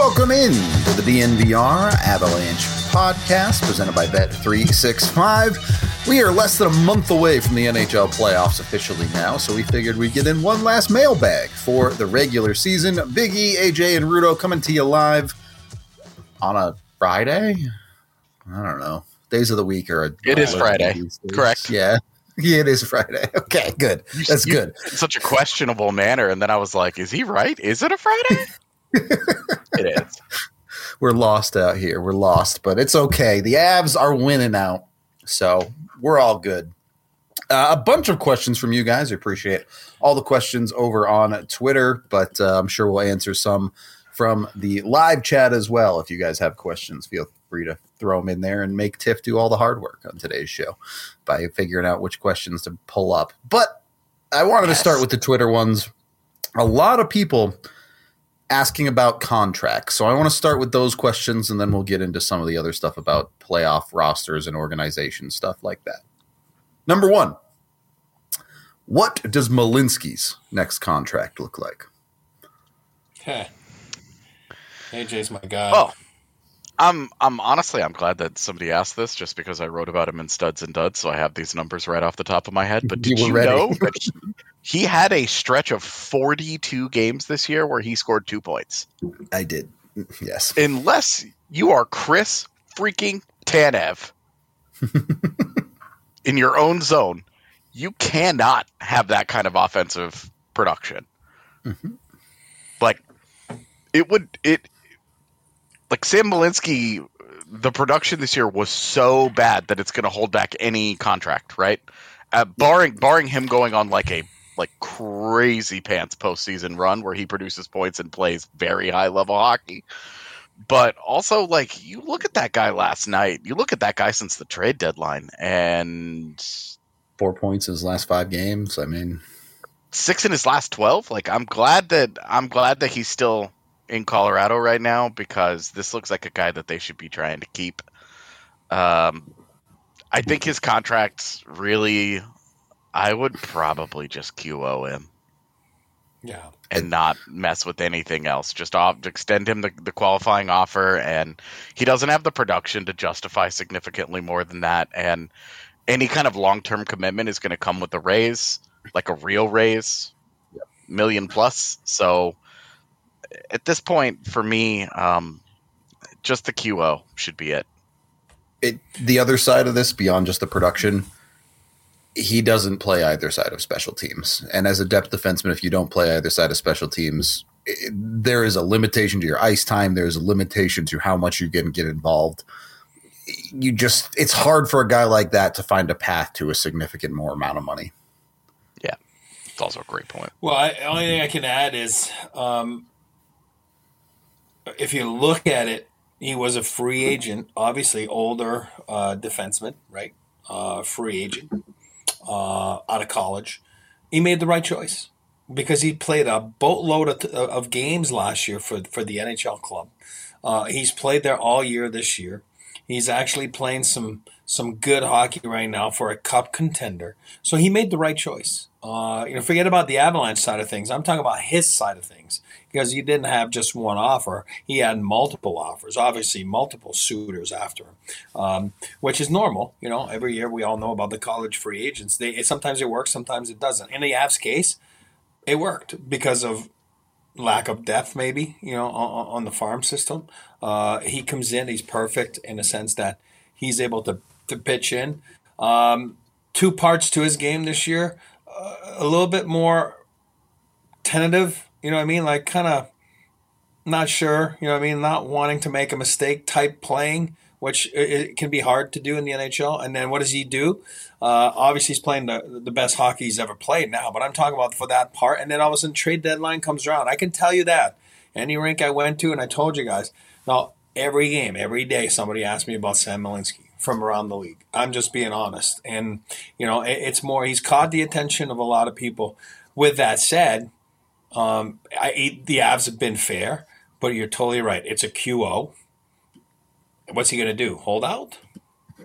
welcome in to the DNVR Avalanche podcast presented by Bet365. We are less than a month away from the NHL playoffs officially now, so we figured we'd get in one last mailbag for the regular season. Big E, AJ, and Rudo coming to you live on a Friday? I don't know. Days of the week are... It is Friday, correct? Yeah, it is Friday. Okay, good. That's good. In such a questionable manner, and then I was like, is he right? Is it a Friday? It is. We're lost out here. We're lost, but it's okay. The Avs are winning out, so we're all good. A bunch of questions from you guys. I appreciate all the questions over on Twitter, but I'm sure we'll answer some from the live chat as well. If you guys have questions, feel free to throw them in there and make Tiff do all the hard work on today's show by figuring out which questions to pull up. But I wanted to start with the Twitter ones. A lot of people asking about contracts. So I want to start with those questions, and then we'll get into some of the other stuff about playoff rosters and organization, stuff like that. Number one, what does Malinsky's next contract look like? AJ's my guy. Oh, I'm glad that somebody asked this, just because I wrote about him in Studs and Duds, so I have these numbers right off the top of my head. But did you know that he had a stretch of 42 games this year where he scored 2 points? I did, yes. Unless you are Chris freaking Tanev in your own zone, you cannot have that kind of offensive production. Mm-hmm. Like Sam Malinsky, the production this year was so bad that it's going to hold back any contract, right? Barring him going on like a crazy pants postseason run where he produces points and plays very high level hockey. But also, you look at that guy last night, you look at that guy since the trade deadline, and 4 points in his last 5 games. I mean, 6 in his last 12. I'm glad that he's still in Colorado right now, because this looks like a guy that they should be trying to keep. I think his contract's really, I would probably just QO him. Yeah. And not mess with anything else. Just extend him the qualifying offer, and he doesn't have the production to justify significantly more than that. And any kind of long-term commitment is going to come with a raise, like a real raise, $1 million plus. So at this point, for me, just the QO should be it. The other side of this, beyond just the production, he doesn't play either side of special teams. And as a depth defenseman, if you don't play either side of special teams, there is a limitation to your ice time. There's a limitation to how much you can get involved. It's hard for a guy like that to find a path to a significant more amount of money. Yeah, it's also a great point. Well, the only thing I can add is, if you look at it, he was a free agent, obviously older defenseman, right? Free agent out of college. He made the right choice because he played a boatload of games last year for the NHL club. He's played there all year this year. He's actually playing some good hockey right now for a cup contender. So he made the right choice. Forget about the Avalanche side of things. I'm talking about his side of things, because he didn't have just one offer. He had multiple offers, obviously multiple suitors after him, which is normal. Every year we all know about the college free agents. Sometimes it works, sometimes it doesn't. In the Avs case, it worked because of lack of depth, maybe, on the farm system. He comes in, he's perfect in the sense that he's able to pitch in. 2 parts to his game this year. A little bit more tentative, kind of not sure, not wanting to make a mistake type playing, which it can be hard to do in the NHL. And then what does he do? Obviously, he's playing the best hockey he's ever played now, but I'm talking about for that part. And then all of a sudden, trade deadline comes around. I can tell you that. Any rink I went to, and I told you guys, now, every game, every day, somebody asked me about Sam Malinsky from around the league. I'm just being honest. And, it's more, he's caught the attention of a lot of people. With that said, the Avs have been fair, but you're totally right. It's a QO. What's he going to do? Hold out?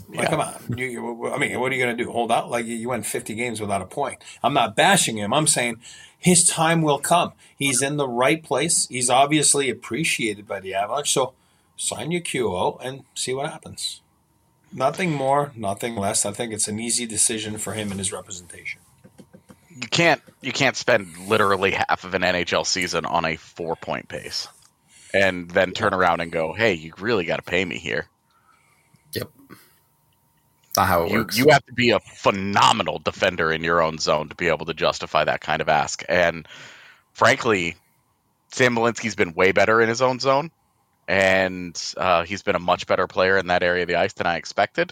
Like, come on. I mean, what are you going to do? Hold out? Like, you went 50 games without a point. I'm not bashing him. I'm saying his time will come. He's in the right place. He's obviously appreciated by the Avalanche. So sign your QO and see what happens. Nothing more, nothing less. I think it's an easy decision for him and his representation. You can't spend literally half of an NHL season on a 4-point pace and then turn around and go, hey, you really got to pay me here. Yep. Not how it works. You have to be a phenomenal defender in your own zone to be able to justify that kind of ask. And frankly, Sam Malinsky's been way better in his own zone, and he's been a much better player in that area of the ice than I expected.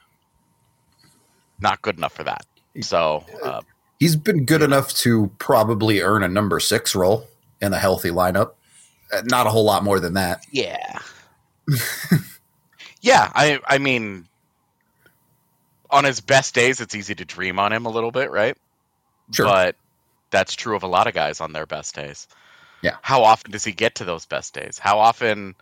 Not good enough for that. So he's been good enough to probably earn a number 6 role in a healthy lineup. Not a whole lot more than that. Yeah. Yeah, I mean, on his best days, it's easy to dream on him a little bit, right? Sure. But that's true of a lot of guys on their best days. Yeah. How often does he get to those best days? How often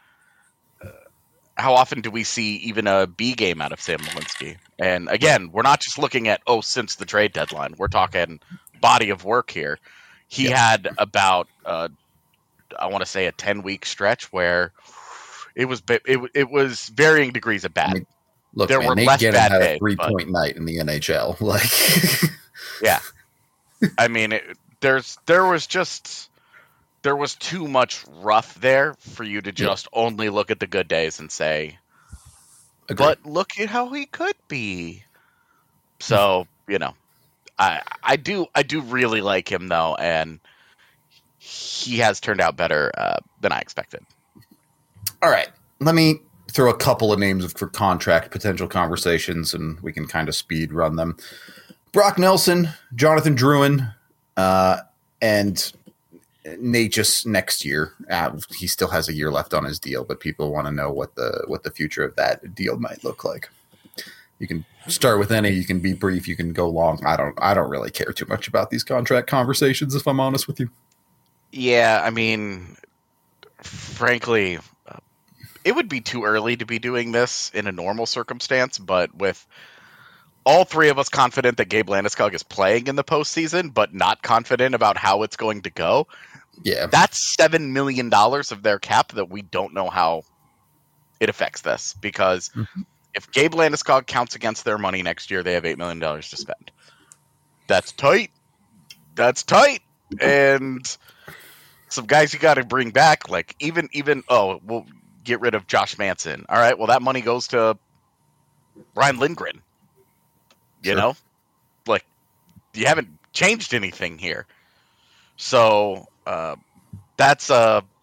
do we see even a B game out of Sam Malinsky? And again, we're not just looking at, since the trade deadline. We're talking body of work here. He had about, I want to say, a 10-week stretch where it was varying degrees of bad. I mean, look, there were Nate less Gannon bad had days, a 3-point night in the NHL. Like, yeah, I mean, there was too much rough there for you to just only look at the good days and say, Agreed. but look at how he could be. So, I do really like him though, and he has turned out better than I expected. All right, let me throw a couple of names for contract potential conversations, and we can kind of speed run them. Brock Nelson, Jonathan Drouin, and Nate just next year. He still has a year left on his deal, but people want to know what the future of that deal might look like. You can start with any. You can be brief. You can go long. I don't really care too much about these contract conversations, if I'm honest with you. Yeah, I mean, frankly, it would be too early to be doing this in a normal circumstance, but with all three of us confident that Gabe Landeskog is playing in the postseason, but not confident about how it's going to go, that's $7 million of their cap that we don't know how it affects this. Because if Gabe Landeskog counts against their money next year, they have $8 million to spend. That's tight. And some guys you got to bring back, like even we'll get rid of Josh Manson. All right, well, that money goes to Ryan Lindgren. You know, like, you haven't changed anything here. So that's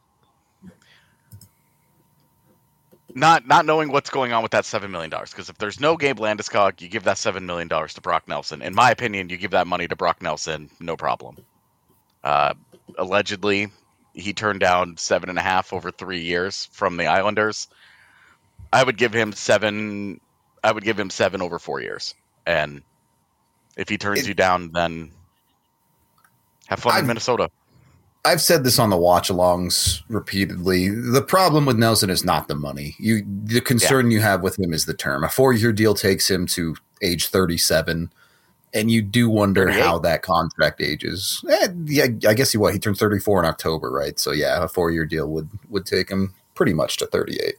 not knowing what's going on with that $7 million. Because if there's no Gabe Landeskog, you give that $7 million to Brock Nelson. In my opinion, you give that money to Brock Nelson, no problem. Allegedly, he turned down 7.5 over 3 years from the Islanders. I would give him 7 over 4 years. And if he turns you down, then have fun in Minnesota. I've said this on the watch-alongs repeatedly. The problem with Nelson is not the money. The concern you have with him is the term. A 4-year deal takes him to age 37, and you do wonder 38. how that contract ages. I guess he turned 34 in October, right? So, yeah, a 4-year deal would take him pretty much to 38.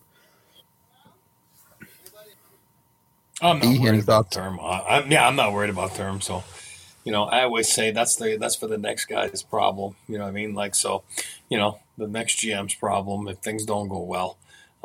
I'm not worried about term. I'm not worried about term. So, I always say that's for the next guy's problem. You know what I mean? Like, so, the next GM's problem if things don't go well.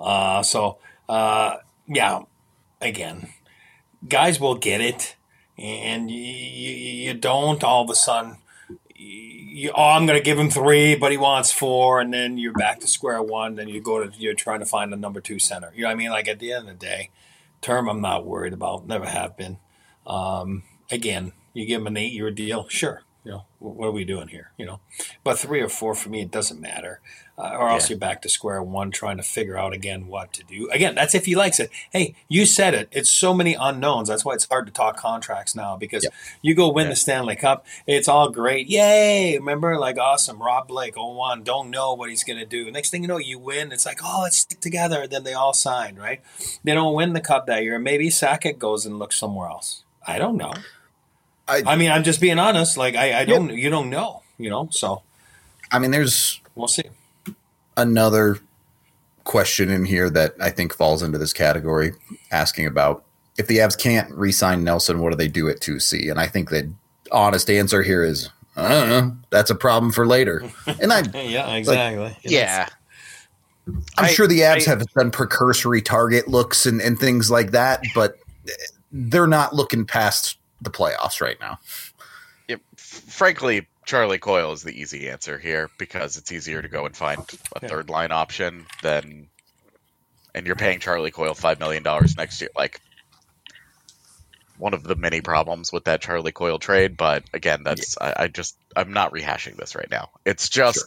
Again, guys will get it, and you don't all of a sudden. I'm going to give him 3, but he wants 4, and then you're back to square one. Then you're trying to find a number 2 center. You know what I mean? Like, at the end of the day. Term, I'm not worried about. Never have been. Again, you give him an 8-year deal, sure. what are we doing here? But 3 or 4 for me, it doesn't matter. Or else Yeah. you're back to square one trying to figure out again what to do. Again, that's if he likes it. Hey, you said it. It's so many unknowns. That's why it's hard to talk contracts now because Yep. you go win Yeah. the Stanley Cup. It's all great. Yay. Remember, like, awesome. Rob Blake, 0-1. Don't know what he's going to do. Next thing you know, you win. It's like, oh, let's stick together. Then they all sign, right? They don't win the Cup that year. Maybe Sakic goes and looks somewhere else. I don't know. I mean, I'm just being honest. Like, I don't, you don't know, so I mean, there's we'll see. another question in here that I think falls into this category, asking about if the Avs can't re-sign Nelson, what do they do at 2C? And I think the honest answer here is, I don't know. That's a problem for later. And Yeah, exactly. Yeah. I'm sure the Avs have done precursory target looks and things like that, but they're not looking past the playoffs right now. Frankly, Charlie Coyle is the easy answer here because it's easier to go and find a third line option and you're paying Charlie Coyle $5 million next year. Like, one of the many problems with that Charlie Coyle trade, but again, that's I'm not rehashing this right now. It's just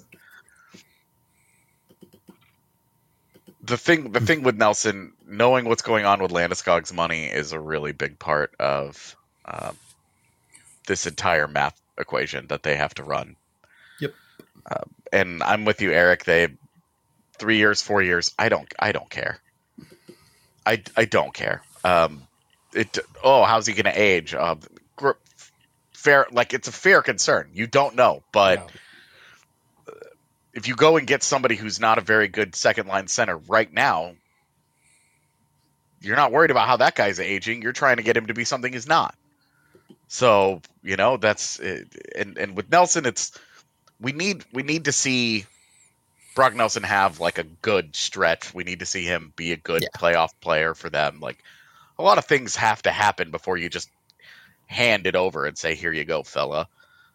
the thing with Nelson, knowing what's going on with Landeskog's money is a really big part of this entire math equation that they have to run. Yep. And I'm with you, Eric. They 3 years, 4 years. I don't care. I don't care. How's he going to age? Fair, like, it's a fair concern. You don't know, but if you go and get somebody who's not a very good second line center right now, you're not worried about how that guy's aging. You're trying to get him to be something he's not. So, that's it. And with Nelson, we need to see Brock Nelson have like a good stretch. We need to see him be a good playoff player for them. Like, a lot of things have to happen before you just hand it over and say, "Here you go, fella."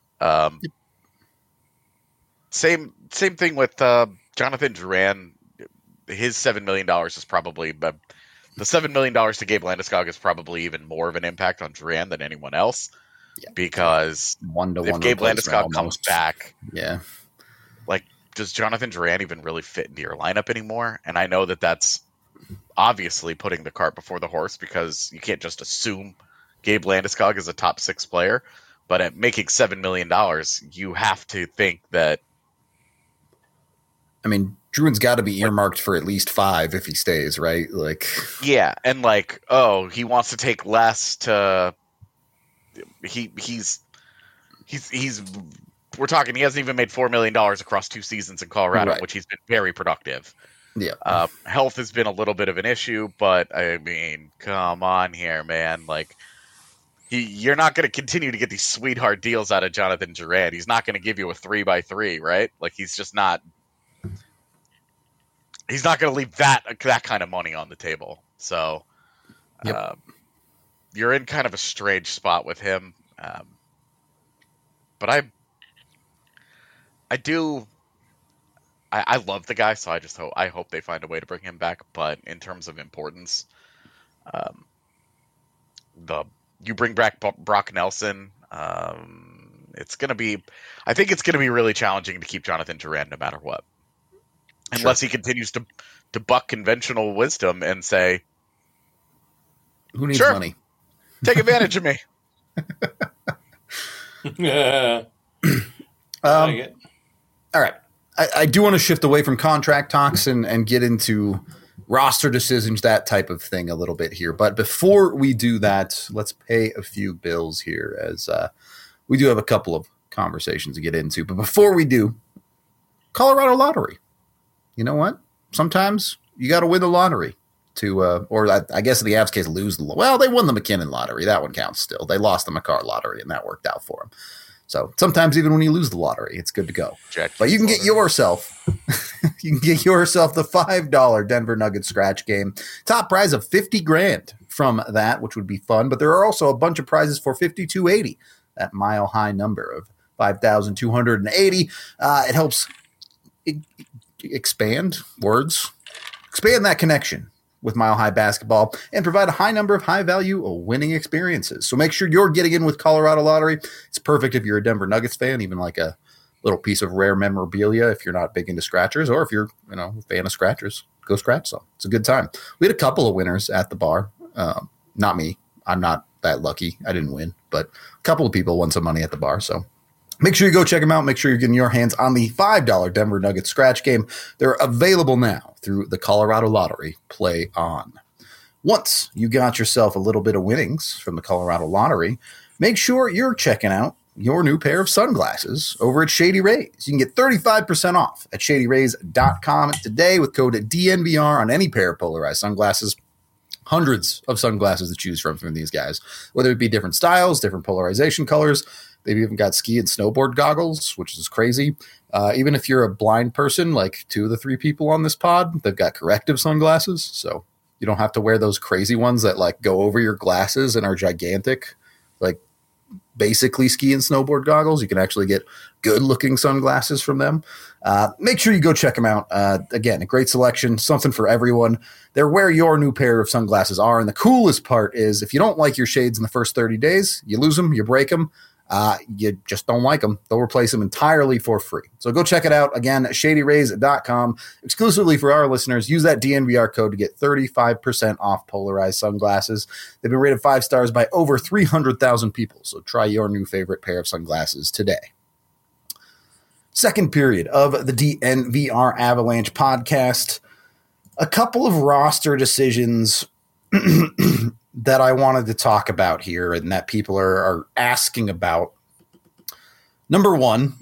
Same thing with Jonathan Drouin. His $7 million is probably the $7 million to Gabe Landeskog is probably even more of an impact on Drouin than anyone else because if Gabe Landeskog comes back, like, does Jonathan Drouin even really fit into your lineup anymore? And I know that's obviously putting the cart before the horse because you can't just assume Gabe Landeskog is a top 6 player, but at making $7 million, you have to think that. I mean, Druin's got to be earmarked for at least 5 if he stays, right? Like, yeah, and like, he wants to take less to. He's. We're talking. He hasn't even made $4 million across 2 seasons in Colorado, which he's been very productive. Yeah, health has been a little bit of an issue, but I mean, come on here, man. Like, you're not going to continue to get these sweetheart deals out of Jonathan Drouin. He's not going to give you a 3x3, right? Like, he's just not. He's not going to leave that kind of money on the table. So, you're in kind of a strange spot with him. But I love the guy, so I hope they find a way to bring him back. But in terms of importance, you bring back Brock Nelson. I think it's gonna be really challenging to keep Jonathan Drouin no matter what, unless he continues to buck conventional wisdom and say, "Who needs money? Take advantage of me." Yeah. All right. I do want to shift away from contract talks and get into roster decisions, that type of thing a little bit here. But before we do that, let's pay a few bills here as we do have a couple of conversations to get into. But before we do, Colorado lottery. You know what? Sometimes you got to win the lottery to, or I guess in the Avs case, lose the. Well, they won the McKinnon lottery. That one counts still. They lost the Makar lottery, and that worked out for them. So sometimes even when you lose the lottery, it's good to go. But you can get yourself, the $5 Denver Nuggets scratch game. Top prize of $50,000 from that, which would be fun. But there are also a bunch of prizes for $5,280, that mile high number of $5,280. It helps expand that connection with Mile High Basketball and provide a high number of high-value winning experiences. So make sure you're getting in with Colorado Lottery. It's perfect if you're a Denver Nuggets fan, even like a little piece of rare memorabilia if you're not big into scratchers, or if you're a fan of scratchers, go scratch some. It's a good time. We had a couple of winners at the bar. Not me. I'm not that lucky. I didn't win, but a couple of people won some money at the bar. So make sure you go check them out. Make sure you're getting your hands on the $5 Denver Nuggets scratch game. They're available now through the Colorado Lottery. Play on. Once you got yourself a little bit of winnings from the Colorado Lottery, make sure you're checking out your new pair of sunglasses over at Shady Rays. You can get 35% off at shadyrays.com today with code DNVR on any pair of polarized sunglasses. Hundreds of sunglasses to choose from these guys, whether it be different styles, different polarization colors. They've even got ski and snowboard goggles, which is crazy. Even if you're a blind person, like 2 of the 3 people on this pod, they've got corrective sunglasses. So you don't have to wear those crazy ones that like go over your glasses and are gigantic, like basically ski and snowboard goggles. You can actually get good looking sunglasses from them. Make sure you go check them out. Again, a great selection, something for everyone. They're where your new pair of sunglasses are. And the coolest part is if you don't like your shades in the first 30 days, you lose them, you break them. You just don't like them. They'll replace them entirely for free. So go check it out. Again, shadyrays.com. Exclusively for our listeners, use that DNVR code to get 35% off polarized sunglasses. They've been rated 5 stars by over 300,000 people. So try your new favorite pair of sunglasses today. Second period of the DNVR Avalanche podcast. A couple of roster decisions that I wanted to talk about here and that people are asking about. Number one,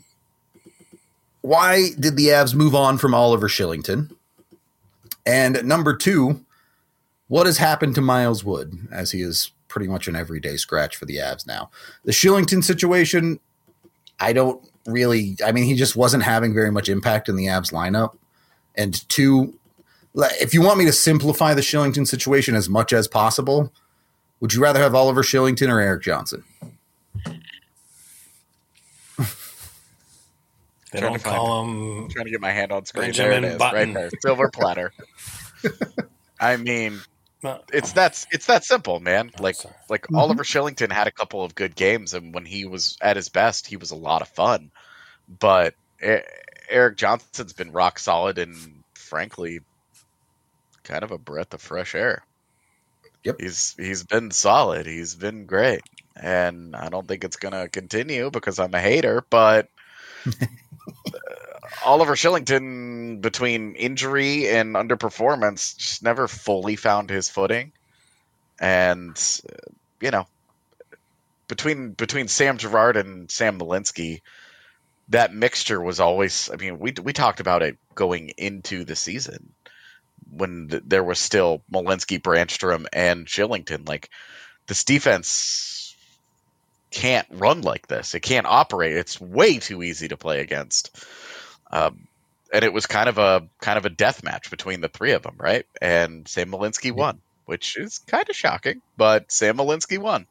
why did the Avs move on from Oliver Kylington? And number two, what has happened to Miles Wood, as he is pretty much an everyday scratch for the Avs now? The Kylington situation, he just wasn't having very much impact in the Avs lineup. And two, if you want me to simplify the Kylington situation as much as possible, would you rather have Oliver Kylington or Erik Johnson? They don't call him. I'm trying to get my hand on screen. Benjamin there it is, Button. right there, silver platter. I mean, it's that simple, man. Oliver Kylington had a couple of good games, and when he was at his best, he was a lot of fun. But Erik Johnson's been rock solid, and frankly, kind of a breath of fresh air. Yep. He's been solid. He's been great. And I don't think it's going to continue because I'm a hater, but Oliver Kylington, between injury and underperformance, just never fully found his footing. And, between Sam Girard and Sam Malinsky, that mixture was always, we talked about it going into the season when there was still Malinsky, Brandstrom, and Kylington. Like, this defense can't run like this. It can't operate. It's way too easy to play against. And it was kind of a death match between the three of them, right? And Sam Malinsky won, which is kind of shocking, but Sam Malinsky won.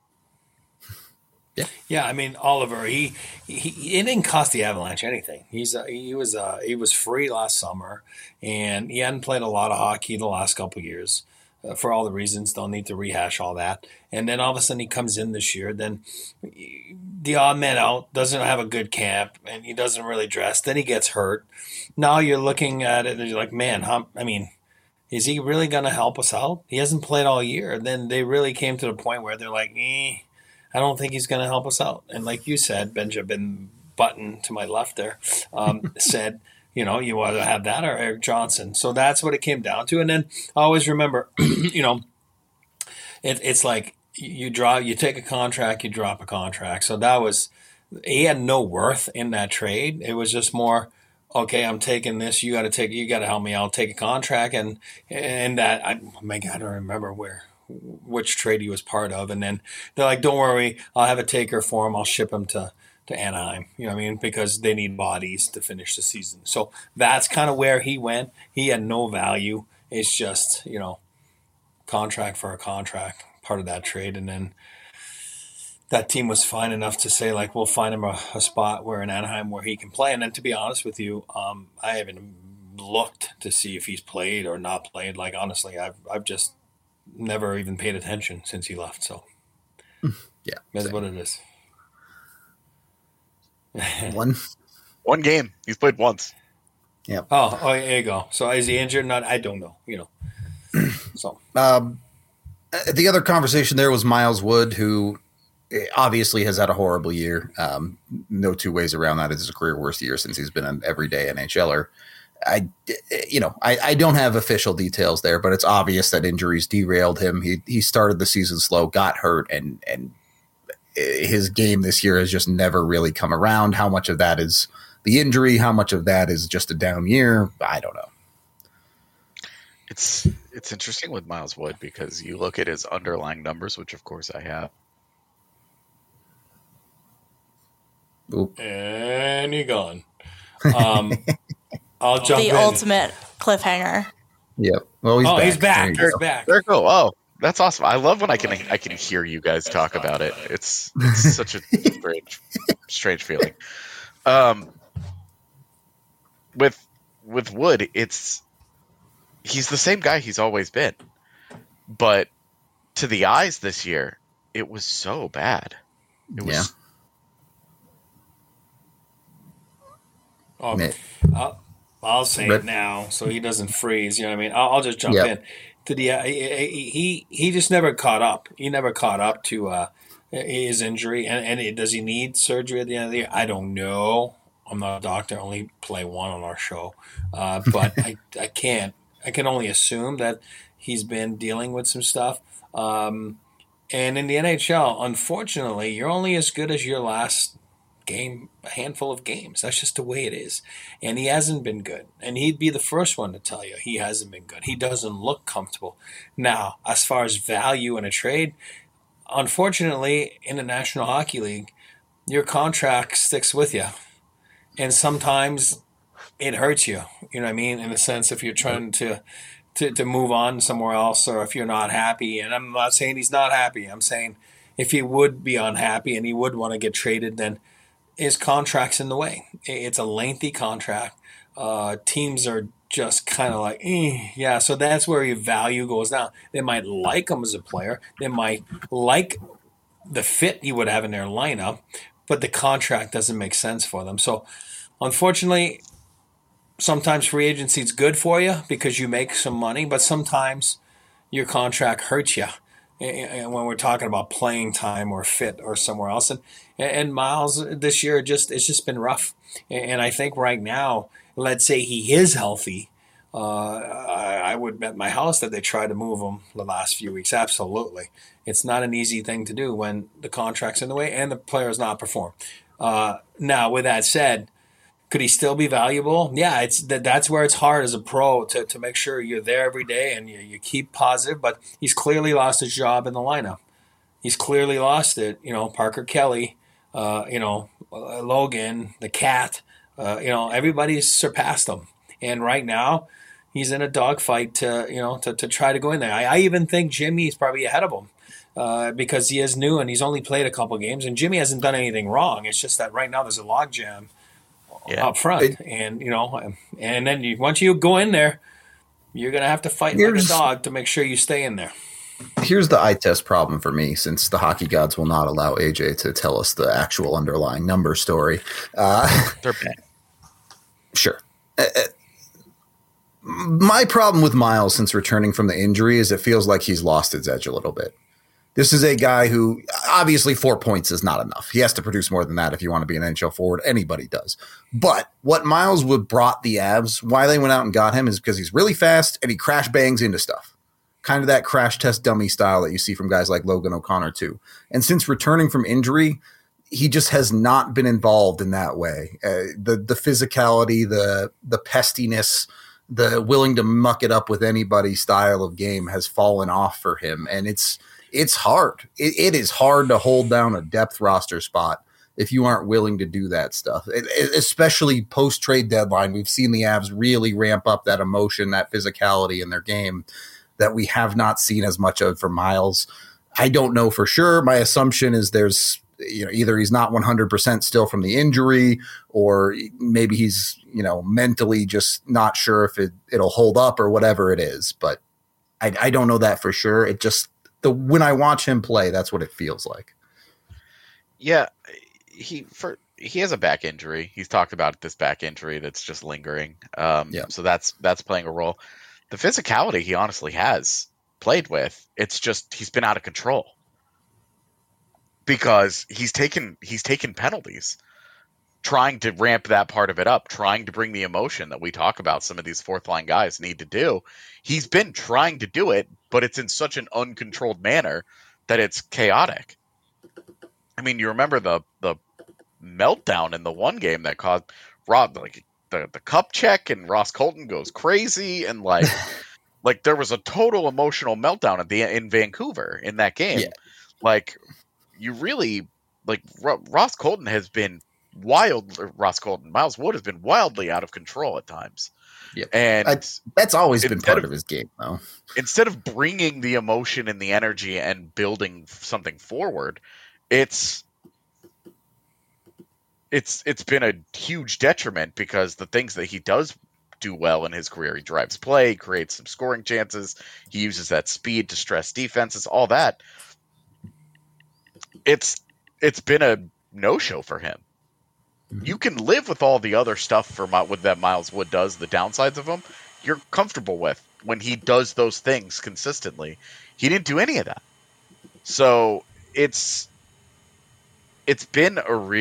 Yeah. Oliver, he it didn't cost the Avalanche anything. He was free last summer, and he hadn't played a lot of hockey the last couple of years for all the reasons. Don't need to rehash all that. And then all of a sudden he comes in this year. Then the odd man out, doesn't have a good camp, and he doesn't really dress. Then he gets hurt. Now you're looking at it and you're like, man, is he really going to help us out? He hasn't played all year. Then they really came to the point where they're like, I don't think he's going to help us out. And like you said, Benjamin Button to my left there said, you either have that or Erik Johnson. So that's what it came down to. And then I always remember, it's like you take a contract, you drop a contract. So he had no worth in that trade. It was just more, okay, I'm taking this. You got to help me out. Take a contract. And that, I don't remember which trade he was part of. And then they're like, don't worry, I'll have a taker for him. I'll ship him to Anaheim, because they need bodies to finish the season. So that's kind of where he went. He had no value. It's just, contract for a contract, part of that trade. And then that team was fine enough to say, like, we'll find him a spot where in Anaheim where he can play. And then to be honest with you, I haven't looked to see if he's played or not played. Like, honestly, I've just never even paid attention since he left. So Yeah, that's same. what it is. One game. He's played once. Yeah. Oh, there you go. So is he injured? Not, I don't know. So the other conversation there was Miles Wood, who obviously has had a horrible year. No two ways around that. It's his career worst year since he's been an everyday NHLer. I don't have official details there, but it's obvious that injuries derailed him. He started the season slow, got hurt, and his game this year has just never really come around. How much of that is the injury? How much of that is just a down year? I don't know. It's interesting with Miles Wood because you look at his underlying numbers, which of course I have. Oop. And you're gone. I'll jump in. The ultimate cliffhanger. Yep. Well, he's back. He's back. There you go. Oh, that's awesome. I love when I can hear you guys talk about it. It's such a strange feeling. With Wood, he's the same guy he's always been, but to the eyes this year, it was so bad. It was. Yeah. I'll say it now, so he doesn't freeze. You know what I mean? I'll just jump in. He just never caught up. He never caught up to his injury. And does he need surgery at the end of the year? I don't know. I'm not a doctor. I only play one on our show, but I can't. I can only assume that he's been dealing with some stuff. And in the NHL, unfortunately, you're only as good as your last game, a handful of games. That's just the way it is. And he hasn't been good. And he'd be the first one to tell you he hasn't been good. He doesn't look comfortable. Now, as far as value in a trade, unfortunately, in the National Hockey League, your contract sticks with you. And sometimes it hurts you, you know what I mean? In a sense, if you're trying to move on somewhere else, or if you're not happy. And I'm not saying he's not happy. I'm saying if he would be unhappy and he would want to get traded, then his contract's in the way. It's a lengthy contract. Teams are just kind of like, yeah. So that's where your value goes down. They might like him as a player. They might like the fit he would have in their lineup, but the contract doesn't make sense for them. So unfortunately, sometimes free agency is good for you because you make some money, but sometimes your contract hurts you. And when we're talking about playing time or fit or somewhere else, and Miles this year it's just been rough. And I think right now, let's say he is healthy, I would bet my house that they tried to move him the last few weeks. Absolutely, it's not an easy thing to do when the contract's in the way and the player's not perform. Now, with that said, could he still be valuable? Yeah, that's where it's hard as a pro to make sure you're there every day and you keep positive. But he's clearly lost his job in the lineup. He's clearly lost it. Parker Kelly, Logan, the Cat. Everybody's surpassed him. And right now, he's in a dogfight to try to go in there. I even think Jimmy's probably ahead of him because he is new and he's only played a couple games. And Jimmy hasn't done anything wrong. It's just that right now there's a logjam. Yeah. Up front, and then once you go in there, you're gonna have to fight like a dog to make sure you stay in there. Here's the eye test problem for me, since the hockey gods will not allow AJ to tell us the actual underlying number story. They're bad. Sure. My problem with Miles since returning from the injury is it feels like he's lost his edge a little bit. This is a guy who obviously 4 points is not enough. He has to produce more than that if you want to be an NHL forward. Anybody does. But what Miles Wood brought the Avs, why they went out and got him, is because he's really fast and he crash bangs into stuff. Kind of that crash test dummy style that you see from guys like Logan O'Connor too. And since returning from injury, he just has not been involved in that way. The physicality, the pestiness, the willing to muck it up with anybody style of game has fallen off for him. And it's hard. It is hard to hold down a depth roster spot if you aren't willing to do that stuff, especially post-trade deadline. We've seen the Avs really ramp up that emotion, that physicality in their game that we have not seen as much of for Miles. I don't know for sure. My assumption is there's either he's not 100% still from the injury, or maybe he's, mentally just not sure if it'll hold up or whatever it is. But I don't know that for sure. It just, when I watch him play, that's what it feels like. Yeah, he has a back injury. He's talked about this back injury that's just lingering. So that's playing a role. The physicality he honestly has played with, it's just he's been out of control because he's taken penalties, trying to ramp that part of it up, trying to bring the emotion that we talk about some of these fourth line guys need to do. He's been trying to do it, but it's in such an uncontrolled manner that it's chaotic. I mean, you remember the meltdown in the one game that caused Rob, like the cup check, and Ross Colton goes crazy, and like there was a total emotional meltdown in Vancouver in that game. Yeah. Like, you really, like, Ross Colton has been Miles Wood has been wildly out of control at times. Yep. And that's always been part of his game, though. Instead of bringing the emotion and the energy and building something forward, it's been a huge detriment, because the things that he does do well in his career, he drives play, creates some scoring chances, he uses that speed to stress defenses, all that. It's been a no-show for him. You can live with all the other stuff with that Miles Wood does, the downsides of him, you're comfortable with when he does those things consistently. He didn't do any of that. So it's been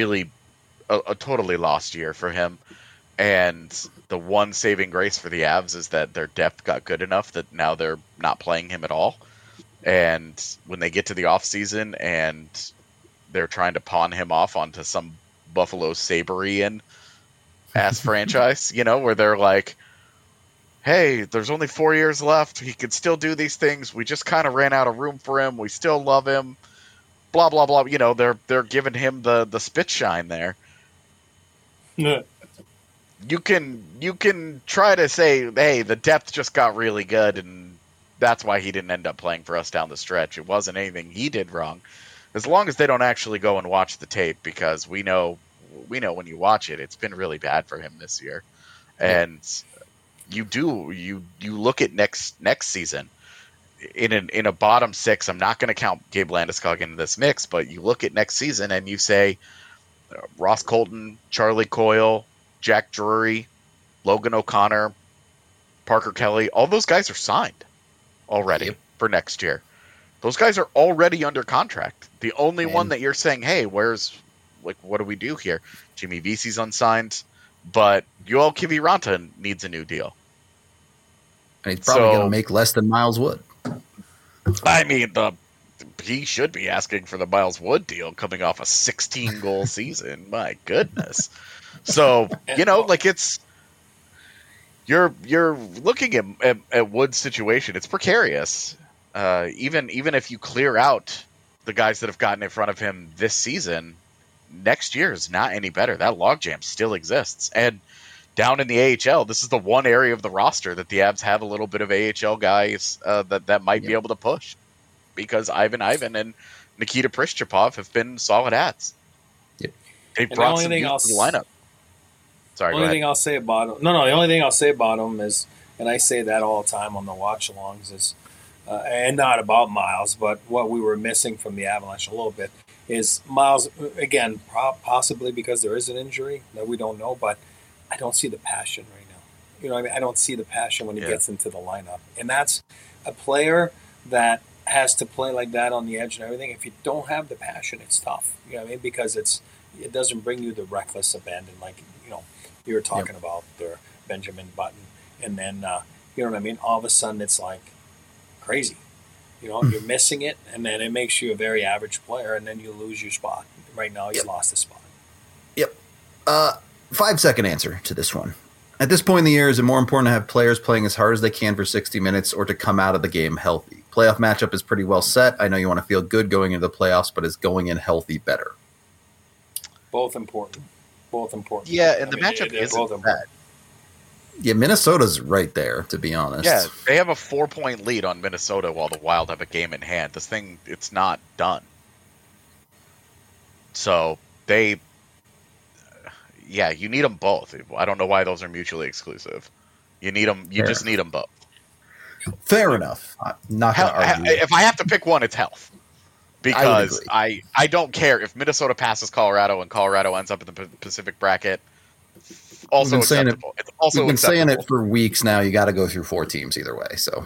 a totally lost year for him. And the one saving grace for the Avs is that their depth got good enough that now they're not playing him at all. And when they get to the offseason and they're trying to pawn him off onto some Buffalo Saberian ass franchise, where they're like, hey, there's only 4 years left. He could still do these things. We just kind of ran out of room for him. We still love him. Blah, blah, blah. They're giving him the spit shine there. Yeah. You can try to say, hey, the depth just got really good, and that's why he didn't end up playing for us down the stretch. It wasn't anything he did wrong. As long as they don't actually go and watch the tape, because we know when you watch it, it's been really bad for him this year. And you look at next season in a bottom six. I'm not going to count Gabe Landeskog into this mix, but you look at next season and you say Ross Colton, Charlie Coyle, Jack Drury, Logan O'Connor, Parker Kelly, all those guys are signed already for next year. Those guys are already under contract. The only one that you're saying, hey, what do we do here? Jimmy Vesey's unsigned, but Yoel Kiviranta needs a new deal. And he's probably going to make less than Miles Wood. I mean, he should be asking for the Miles Wood deal coming off a 16-goal season. My goodness. So, it's you're looking at Wood's situation. It's precarious. Even if you clear out the guys that have gotten in front of him this season, next year is not any better. That logjam still exists. And down in the AHL, this is the one area of the roster that the Avs have a little bit of AHL guys that might be able to push, because Ivan and Nikita Prischapov have been solid ads. Yep. They've brought some youth to the lineup. Sorry, the only thing I'll say about him. The only thing I'll say about him is, and I say that all the time on the watch-alongs, is, and not about Miles, but what we were missing from the Avalanche a little bit is Miles, again, possibly because there is an injury that we don't know, but I don't see the passion right now. You know what I mean? I don't see the passion when he gets into the lineup. And that's a player that has to play like that on the edge and everything. If you don't have the passion, it's tough. You know what I mean? Because it doesn't bring you the reckless abandon, like, you were talking about there, Benjamin Button. And then, you know what I mean? All of a sudden it's like crazy. You're missing it, and then it makes you a very average player, and then you lose your spot. Right now, he's lost his spot. Yep. 5-second answer to this one. At this point in the year, is it more important to have players playing as hard as they can for 60 minutes or to come out of the game healthy? Playoff matchup is pretty well set. I know you want to feel good going into the playoffs, but is going in healthy better? Both important. Yeah, and the matchup isn't bad. Yeah, Minnesota's right there, to be honest. Yeah, they have a 4-point lead on Minnesota while the Wild have a game in hand. This thing, it's not done. So you need them both. I don't know why those are mutually exclusive. You need them. You just need them both. Fair enough. Not going to argue. If I have to pick one, it's health. Because I don't care if Minnesota passes Colorado and Colorado ends up in the Pacific bracket. Also acceptable. It's also we've been saying it for weeks now. You got to go through 4 teams either way. So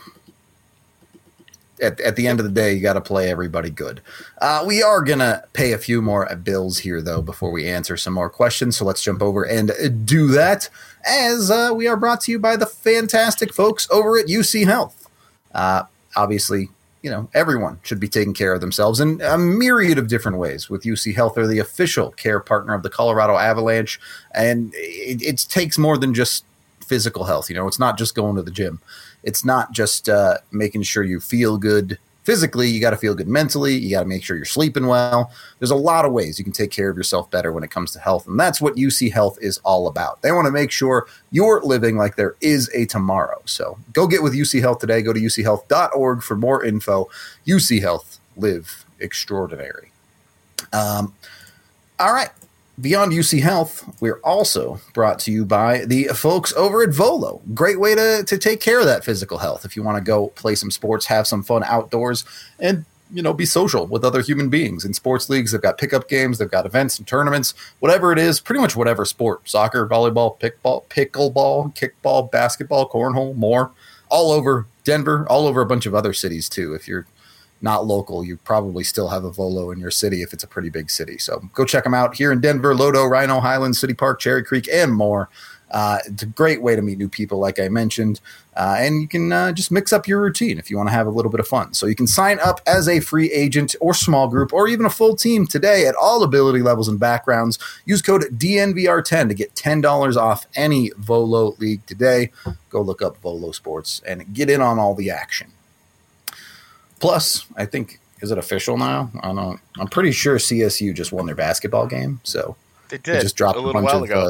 at the end of the day, you got to play everybody good. We are going to pay a few more bills here, though, before we answer some more questions. So let's jump over and do that, as we are brought to you by the fantastic folks over at UC Health. Obviously, everyone should be taking care of themselves in a myriad of different ways. With UC Health, they're the official care partner of the Colorado Avalanche, and it takes more than just physical health. It's not just going to the gym. It's not just making sure you feel good physically. You got to feel good mentally. You got to make sure you're sleeping well. There's a lot of ways you can take care of yourself better when it comes to health, and that's what UC Health is all about. They want to make sure you're living like there is a tomorrow. So go get with UC Health today. Go to uchealth.org for more info. UC Health, live extraordinary. All right. Beyond UC Health, we're also brought to you by the folks over at Volo. Great way to take care of that physical health. If you want to go play some sports, have some fun outdoors, and be social with other human beings. In sports leagues, they've got pickup games, they've got events and tournaments, whatever it is, pretty much whatever sport, soccer, volleyball, pickleball, kickball, basketball, cornhole, more, all over Denver, all over a bunch of other cities too. If you're not local, you probably still have a Volo in your city if it's a pretty big city. So go check them out here in Denver, Lodo, Rhino, Highlands, City Park, Cherry Creek, and more. It's a great way to meet new people, like I mentioned, and you can just mix up your routine if you want to have a little bit of fun. So you can sign up as a free agent or small group or even a full team today at all ability levels and backgrounds. Use code DNVR10 to get $10 off any Volo league today. Go look up Volo Sports and get in on all the action. Plus, I think, is it official now? I'm pretty sure CSU just won their basketball game. So they did. They just dropped a little while ago.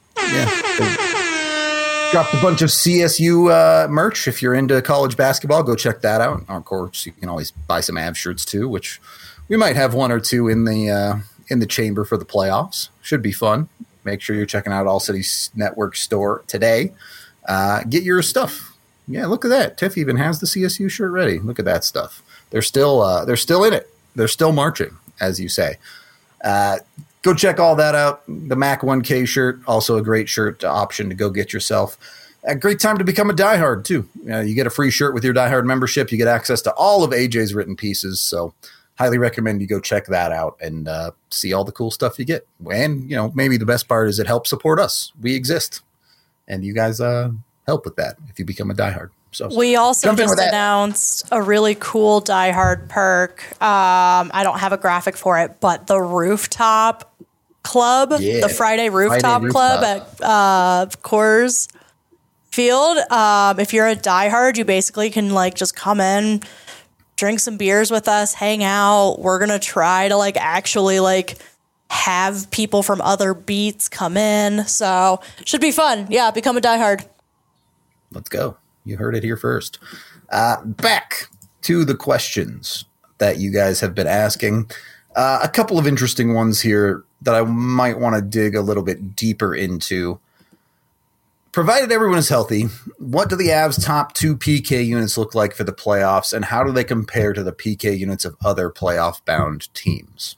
Dropped a bunch of CSU merch. If you're into college basketball, go check that out. Of course, you can always buy some Avs shirts too, which we might have 1 or 2 in the chamber for the playoffs. Should be fun. Make sure you're checking out All City Network store today. Get your stuff. Yeah, look at that. Tiff even has the CSU shirt ready. Look at that stuff. They're still in it. They're still marching, as you say. Go check all that out. The Mac 1K shirt, also a great shirt option to go get yourself. A great time to become a diehard, too. You get a free shirt with your diehard membership. You get access to all of AJ's written pieces. So highly recommend you go check that out and see all the cool stuff you get. And, maybe the best part is it helps support us. We exist. And you guys help with that if you become a diehard. So we also just announced a really cool diehard perk. I don't have a graphic for it, but the rooftop club, the Friday rooftop club at Coors Field. If you're a diehard, you basically can just come in, drink some beers with us, hang out. We're gonna try to actually have people from other beats come in. So should be fun. Yeah, become a diehard. Let's go. You heard it here first. Back to the questions that you guys have been asking. A couple of interesting ones here that I might want to dig a little bit deeper into. Provided everyone is healthy, what do the Avs' top 2 PK units look like for the playoffs, and how do they compare to the PK units of other playoff-bound teams?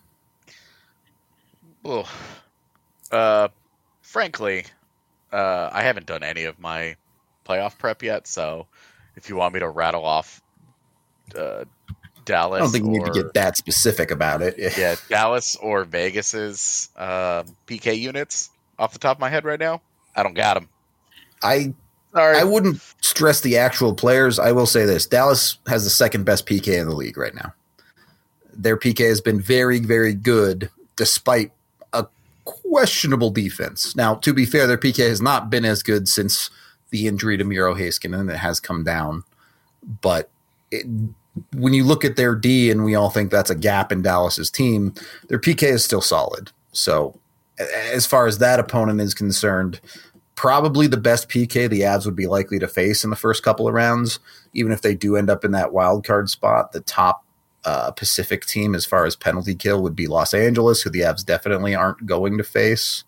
Well, frankly, I haven't done any of my playoff prep yet, so if you want me to rattle off Dallas, I don't think you need to get that specific about it. Yeah, Dallas or Vegas's PK units off the top of my head right now, I don't got them. I wouldn't stress the actual players. I will say this: Dallas has the second best PK in the league right now. Their PK has been very, very good, despite a questionable defense. Now, to be fair, their PK has not been as good since the injury to Miro Heiskanen. It has come down. But when you look at their D, and we all think that's a gap in Dallas's team, their PK is still solid. So as far as that opponent is concerned, probably the best PK the Avs would be likely to face in the first couple of rounds, even if they do end up in that wild card spot. The top Pacific team as far as penalty kill would be Los Angeles, who the Avs definitely aren't going to face.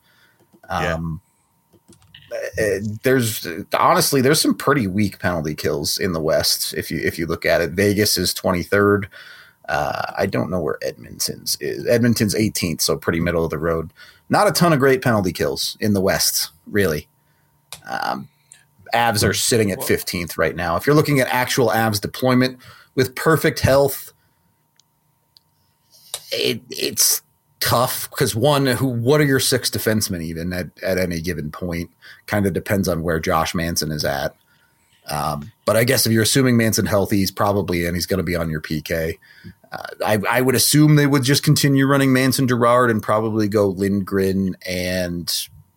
There's some pretty weak penalty kills in the West if you look at it. Vegas is 23rd. I don't know where Edmonton's is. Edmonton's 18th, so pretty middle of the road. Not a ton of great penalty kills in the West, really. Avs are sitting at 15th right now. If you're looking at actual Avs deployment with perfect health, it's tough because what are your 6 defensemen even at any given point? Kind of depends on where Josh Manson is at. But I guess if you're assuming Manson healthy, he's probably in. He's going to be on your PK. I would assume they would just continue running Manson Girard and probably go Lindgren, and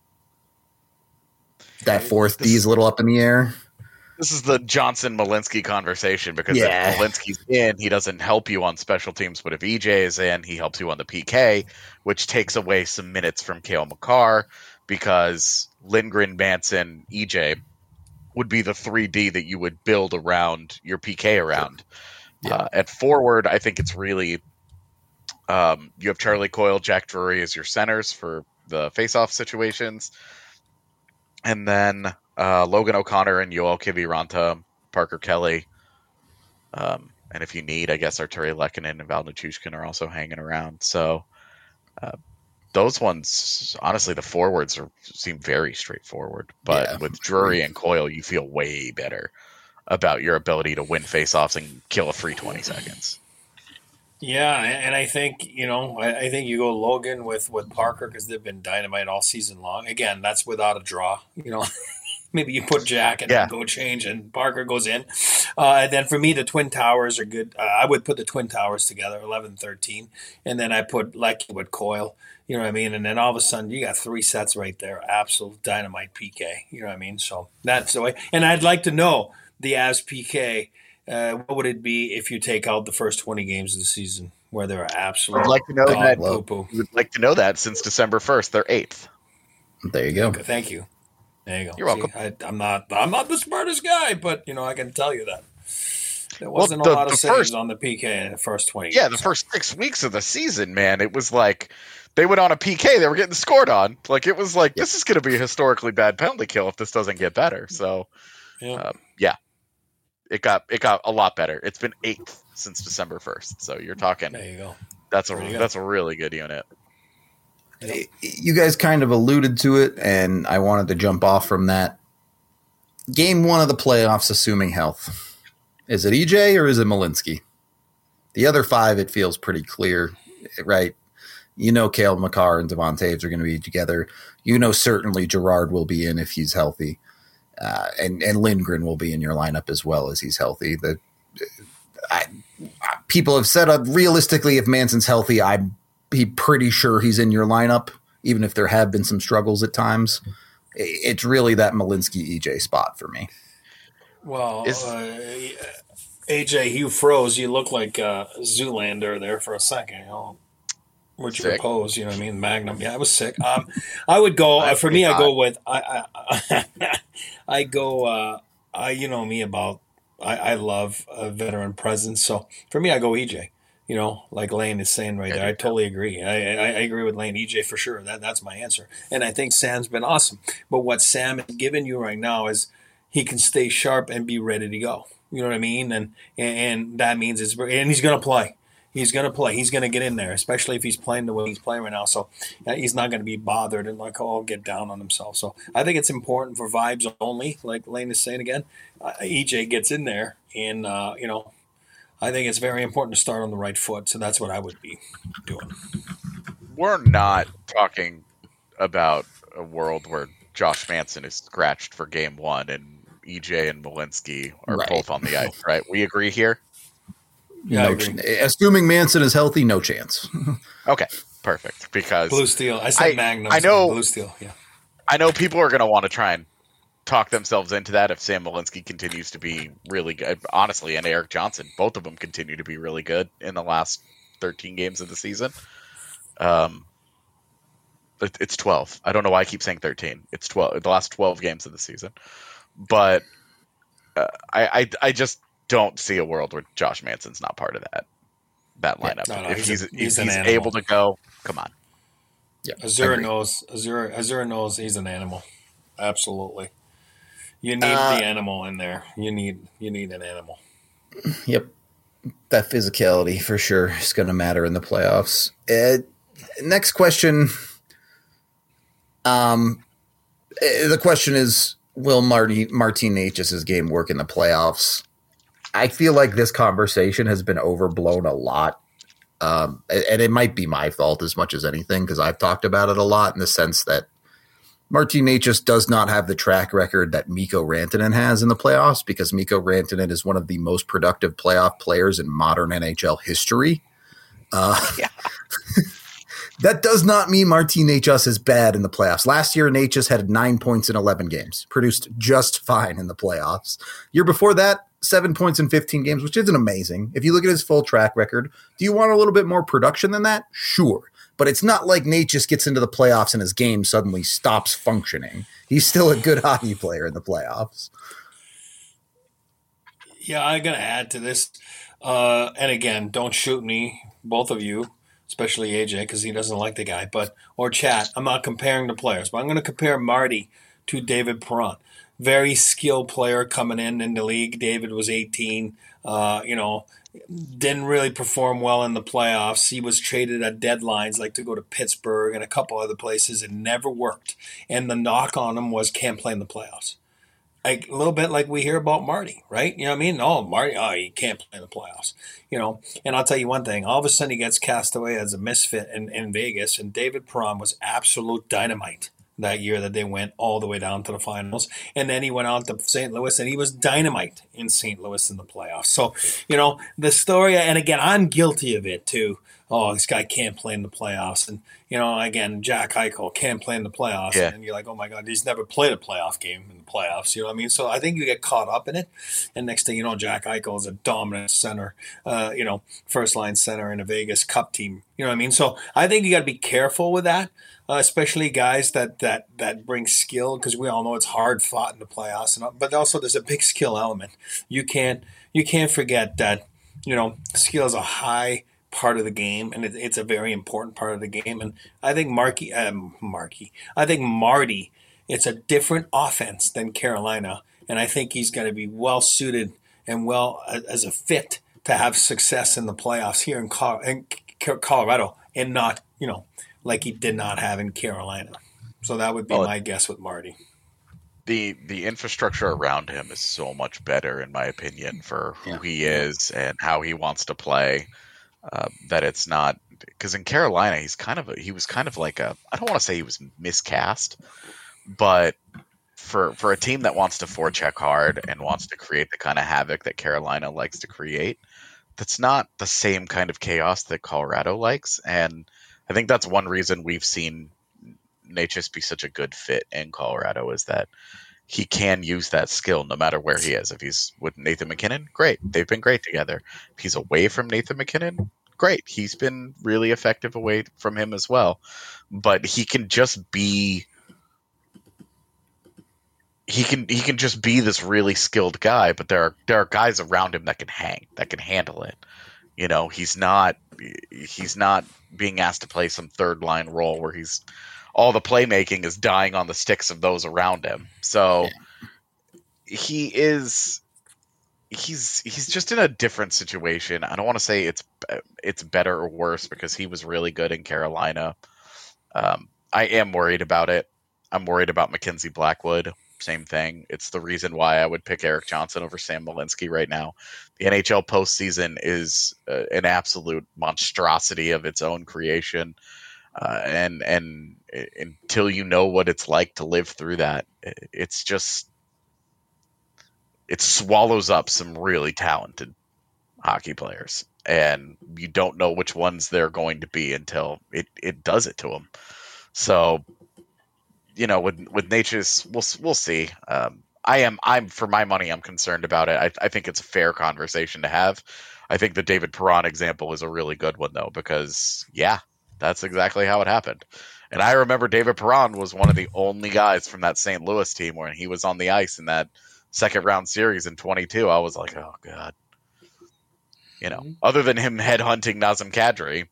that fourth D is a little up in the air. This is the Johnson-Malinsky conversation because if Malinsky's in, he doesn't help you on special teams. But if EJ is in, he helps you on the PK, which takes away some minutes from Cale Makar because Lindgren, Manson, EJ would be the 3D that you would build around your PK around. Yeah. At forward, I think it's really you have Charlie Coyle, Jack Drury as your centers for the face-off situations. And then Logan O'Connor and Yoel Kiviranta, Parker Kelly. And if you need, I guess Arturi Lehkonen and Val Nichushkin are also hanging around. So those ones, honestly, the forwards seem very straightforward. But with Drury and Coyle, you feel way better about your ability to win faceoffs and kill a free 20 seconds. Yeah, and I think, I think you go Logan with Parker because they've been dynamite all season long. Again, that's without a draw. Maybe you put Jack and then go change and Parker goes in. And then for me, the Twin Towers are good. I would put the Twin Towers together, 11-13. And then I put Lecky with Coyle. You know what I mean? And then all of a sudden, you got 3 sets right there. Absolute dynamite PK. You know what I mean? So that's the way. And I'd like to know the Avs PK. What would it be if you take out the first 20 games of the season where they're absolute? I'd like to know that. Would like to know that since December 1st, they're 8th. There you go. Thank you. There you go. You're welcome. I'm not the smartest guy, but I can tell you that there wasn't a lot of saves on the PK in the first 20 games. Yeah, the first 6 weeks of the season, man, it was like they went on a PK, they were getting scored on. Like it was like this is going to be a historically bad penalty kill if this doesn't get better. So, It got a lot better. It's been 8th since December 1st. So you're talking. There you go. That's a really good unit. You guys kind of alluded to it, and I wanted to jump off from that. Game 1 of the playoffs, assuming health. Is it EJ or is it Malinsky? The other 5, it feels pretty clear, right? Cale Makar and Devon Toews are going to be together. Certainly Girard will be in if he's healthy. And Lindgren will be in your lineup as well as he's healthy. People have said realistically, if Manson's healthy, I'd be pretty sure he's in your lineup, even if there have been some struggles at times. It's really that Malinsky EJ spot for me. Well, AJ, you froze. You look like Zoolander there for a second. With your pose, you know what I mean? Magnum. Yeah, I was sick. I would go for me. I go with I go. You know me about. I love a veteran presence. So for me, I go EJ. Like Lane is saying right there. I totally agree. I agree with Lane. EJ for sure. That's my answer. And I think Sam's been awesome. But what Sam is giving you right now is he can stay sharp and be ready to go. You know what I mean? And that means and he's going to play. He's going to play. He's going to get in there, especially if he's playing the way he's playing right now. So he's not going to be bothered and get down on himself. So I think it's important for vibes only, like Lane is saying again. EJ gets in there, and I think it's very important to start on the right foot. So that's what I would be doing. We're not talking about a world where Josh Manson is scratched for game 1 and EJ and Malinsky are both on the ice, right? We agree here? Yeah, assuming Manson is healthy, no chance. Okay, perfect. Because Blue Steel. I said Magnum. I know Blue Steel. Yeah. I know people are going to want to try and talk themselves into that if Sam Malinsky continues to be really good. Honestly, and Eric Johnson, both of them continue to be really good in the last 13 games of the season. It's 12. I don't know why I keep saying 13. It's 12. The last 12 games of the season. But I just don't see a world where Josh Manson's not part of that. that lineup. No, if he's he's an animal. able to go, come on. Yeah, Azura knows he's an animal. Absolutely. You need the animal in there. You need an animal. Yep. That physicality for sure is going to matter in the playoffs. Next question. The question is, will Martin Necas' game work in the playoffs? I feel like this conversation has been overblown a lot. And it might be my fault as much as anything, because I've talked about it a lot in the sense that Martin Necas does not have the track record that Mikko Rantanen has in the playoffs, because Mikko Rantanen is one of the most productive playoff players in modern NHL history. That does not mean Martin Necas is bad in the playoffs. Last year, Necas had 9 points in 11 games, produced just fine in the playoffs. Year before that, 7 points in 15 games, which isn't amazing. If you look at his full track record, do you want a little bit more production than that? Sure. But it's not like Necas gets into the playoffs and his game suddenly stops functioning. He's still a good hockey player in the playoffs. Yeah, I got to add to this. And again, don't shoot me, both of you, especially AJ, because he doesn't like the guy, or chat. I'm not comparing the players, but I'm going to compare Marty to David Perron. Very skilled player coming in the league. David was 18, didn't really perform well in the playoffs. He was traded at deadlines, like to go to Pittsburgh and a couple other places. It never worked. And the knock on him was can't play in the playoffs. Like a little bit like we hear about Marty, right? You know what I mean? Oh, Marty, he can't play in the playoffs. And I'll tell you one thing. All of a sudden he gets cast away as a misfit in Vegas, and David Perron was absolute dynamite that year that they went all the way down to the finals. And then he went on to St. Louis, and he was dynamite in St. Louis in the playoffs. So, the story, and again, I'm guilty of it too. Oh, this guy can't play in the playoffs. And, again, Jack Eichel can't play in the playoffs. Yeah. And you're like, oh, my God, he's never played a playoff game in the playoffs. You know what I mean? So I think you get caught up in it. And next thing you know, Jack Eichel is a dominant center, first-line center in a Vegas Cup team. You know what I mean? So I think you got to be careful with that, especially guys that bring skill, because we all know it's hard fought in the playoffs. But also there's a big skill element. You can't forget that, skill is a high part of the game, and it's a very important part of the game. And I think Marty, it's a different offense than Carolina, and I think he's going to be well suited and well as a fit to have success in the playoffs here in Colorado, and not like he did not have in Carolina. So that would be my guess with Marty. The infrastructure around him is so much better, in my opinion, for who he is and how he wants to play. That it's not, because in Carolina he was kind of like I don't want to say he was miscast, but for a team that wants to forecheck hard and wants to create the kind of havoc that Carolina likes to create, that's not the same kind of chaos that Colorado likes. And I think that's one reason we've seen Necas be such a good fit in Colorado, is that he can use that skill no matter where he is. If he's with Nathan MacKinnon, great. They've been great together. If he's away from Nathan MacKinnon, great. He's been really effective away from him as well. But he can just be this really skilled guy, but there are guys around him that can handle it. He's not being asked to play some third line role where all the playmaking is dying on the sticks of those around him. So he's just in a different situation. I don't want to say it's better or worse, because he was really good in Carolina. I am worried about it. I'm worried about Mackenzie Blackwood. Same thing. It's the reason why I would pick Erik Johnson over Sam Malinsky right now. The NHL postseason is an absolute monstrosity of its own creation. And until you know what it's like to live through that, it swallows up some really talented hockey players, and you don't know which ones they're going to be until it does it to them. So, with Necas, we'll see. I'm for my money, I'm concerned about it. I think it's a fair conversation to have. I think the David Perron example is a really good one, though, because that's exactly how it happened. And I remember David Perron was one of the only guys from that St. Louis team when he was on the ice in that second round series in 22. I was like, oh God. other than him headhunting Nazem Kadri,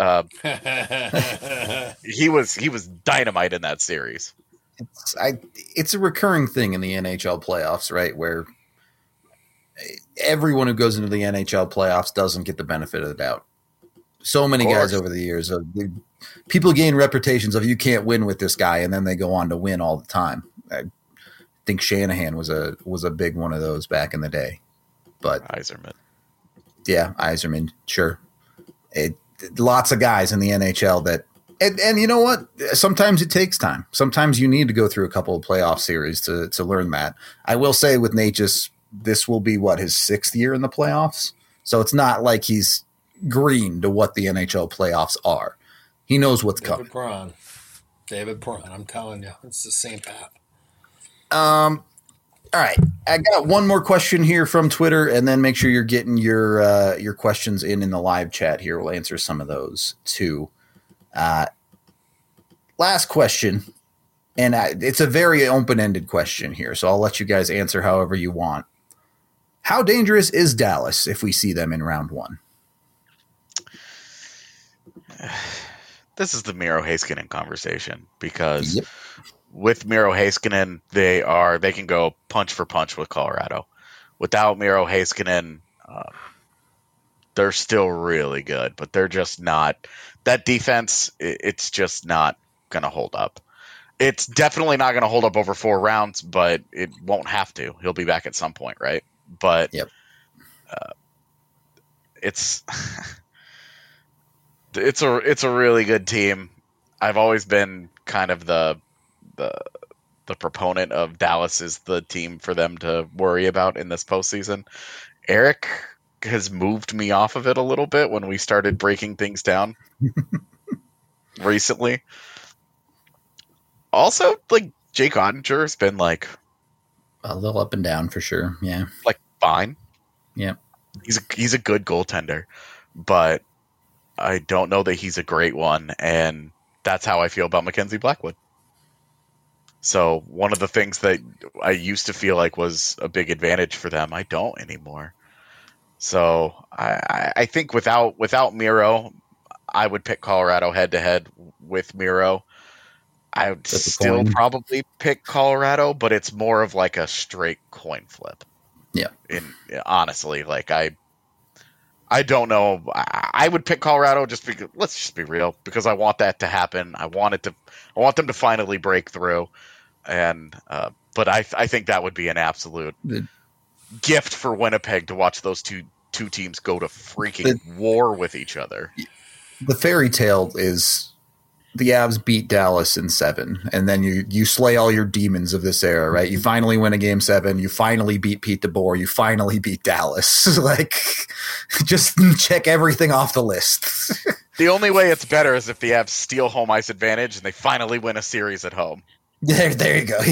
he was dynamite in that series. It's a recurring thing in the NHL playoffs, right? Where everyone who goes into the NHL playoffs doesn't get the benefit of the doubt. So many guys over the years, people gain reputations of you can't win with this guy, and then they go on to win all the time. I think Shanahan was a big one of those back in the day. But Yzerman. Yeah, Yzerman, sure. Lots of guys in the NHL that and you know what? Sometimes it takes time. Sometimes you need to go through a couple of playoff series to learn that. I will say with Necas, this will be his 6th year in the playoffs. So it's not like he's green to what the NHL playoffs are. He knows what's coming. David Perron, I'm telling you, it's the same path. All right, I got one more question here from Twitter, and then make sure you're getting your questions in the live chat here. We'll answer some of those too. Last question, and it's a very open-ended question here, so I'll let you guys answer however you want. How dangerous is Dallas if we see them in round 1? This is the Miro Heiskanen conversation because with Miro Heiskanen, they can go punch for punch with Colorado. Without Miro Heiskanen, they're still really good, but they're just not. That defense, it's just not going to hold up. It's definitely not going to hold up over 4 rounds, but it won't have to. He'll be back at some point, right? But it's it's a really good team. I've always been kind of the proponent of Dallas is the team for them to worry about in this postseason. Eric has moved me off of it a little bit when we started breaking things down recently. Also, Jake Ottinger has been a little up and down for sure. Yeah, fine. Yeah, he's a good goaltender, but I don't know that he's a great one, and that's how I feel about Mackenzie Blackwood. So one of the things that I used to feel like was a big advantage for them, I don't anymore. So I think without Miro, I would pick Colorado head to head. With Miro, I would still probably pick Colorado, but it's more of a straight coin flip. Yeah. Honestly, I don't know. I would pick Colorado just because. Let's just be real, because I want that to happen. I want them to finally break through, and but I think that would be an absolute gift for Winnipeg to watch those two teams go to freaking war with each other. The fairy tale is the Avs beat Dallas in 7, and then you slay all your demons of this era, right? You finally win a game 7. You finally beat Pete DeBoer. You finally beat Dallas. Just check everything off the list. The only way it's better is if the Avs steal home ice advantage and they finally win a series at home. There you go.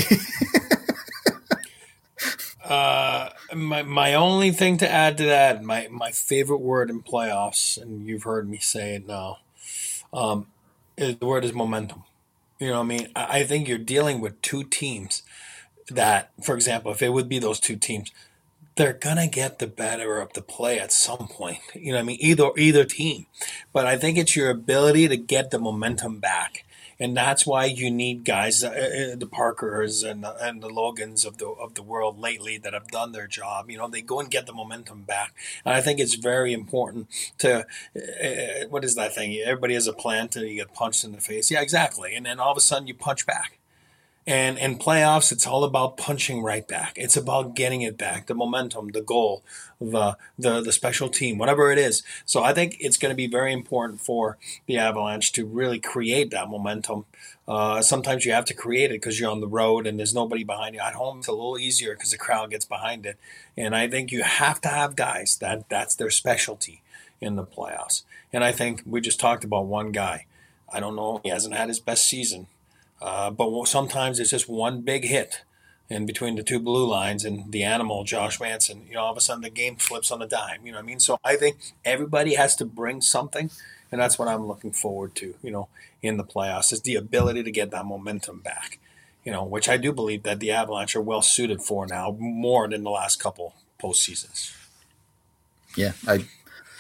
My only thing to add to that, my favorite word in playoffs, and you've heard me say it now, the word is momentum. You know what I mean? I think you're dealing with 2 teams that, for example, if it would be those 2 teams, they're going to get the better of the play at some point. You know what I mean? Either team. But I think it's your ability to get the momentum back. And that's why you need guys, the Parkers and the Logans of the world lately that have done their job. They go and get the momentum back. And I think it's very important to, what is that thing? Everybody has a plan until you get punched in the face. Yeah, exactly. And then all of a sudden you punch back. And in playoffs, it's all about punching right back. It's about getting it back, the momentum, the goal, the special team, whatever it is. So I think it's going to be very important for the Avalanche to really create that momentum. Sometimes you have to create it because you're on the road and there's nobody behind you. At home, it's a little easier because the crowd gets behind it. And I think you have to have guys that's their specialty in the playoffs. And I think we just talked about one guy. I don't know. He hasn't had his best season. But sometimes it's just one big hit in between the 2 blue lines and the animal, Josh Manson. All of a sudden the game flips on a dime. You know what I mean? So I think everybody has to bring something, and that's what I'm looking forward to, in the playoffs, is the ability to get that momentum back, which I do believe that the Avalanche are well suited for now, more than the last couple postseasons. Yeah,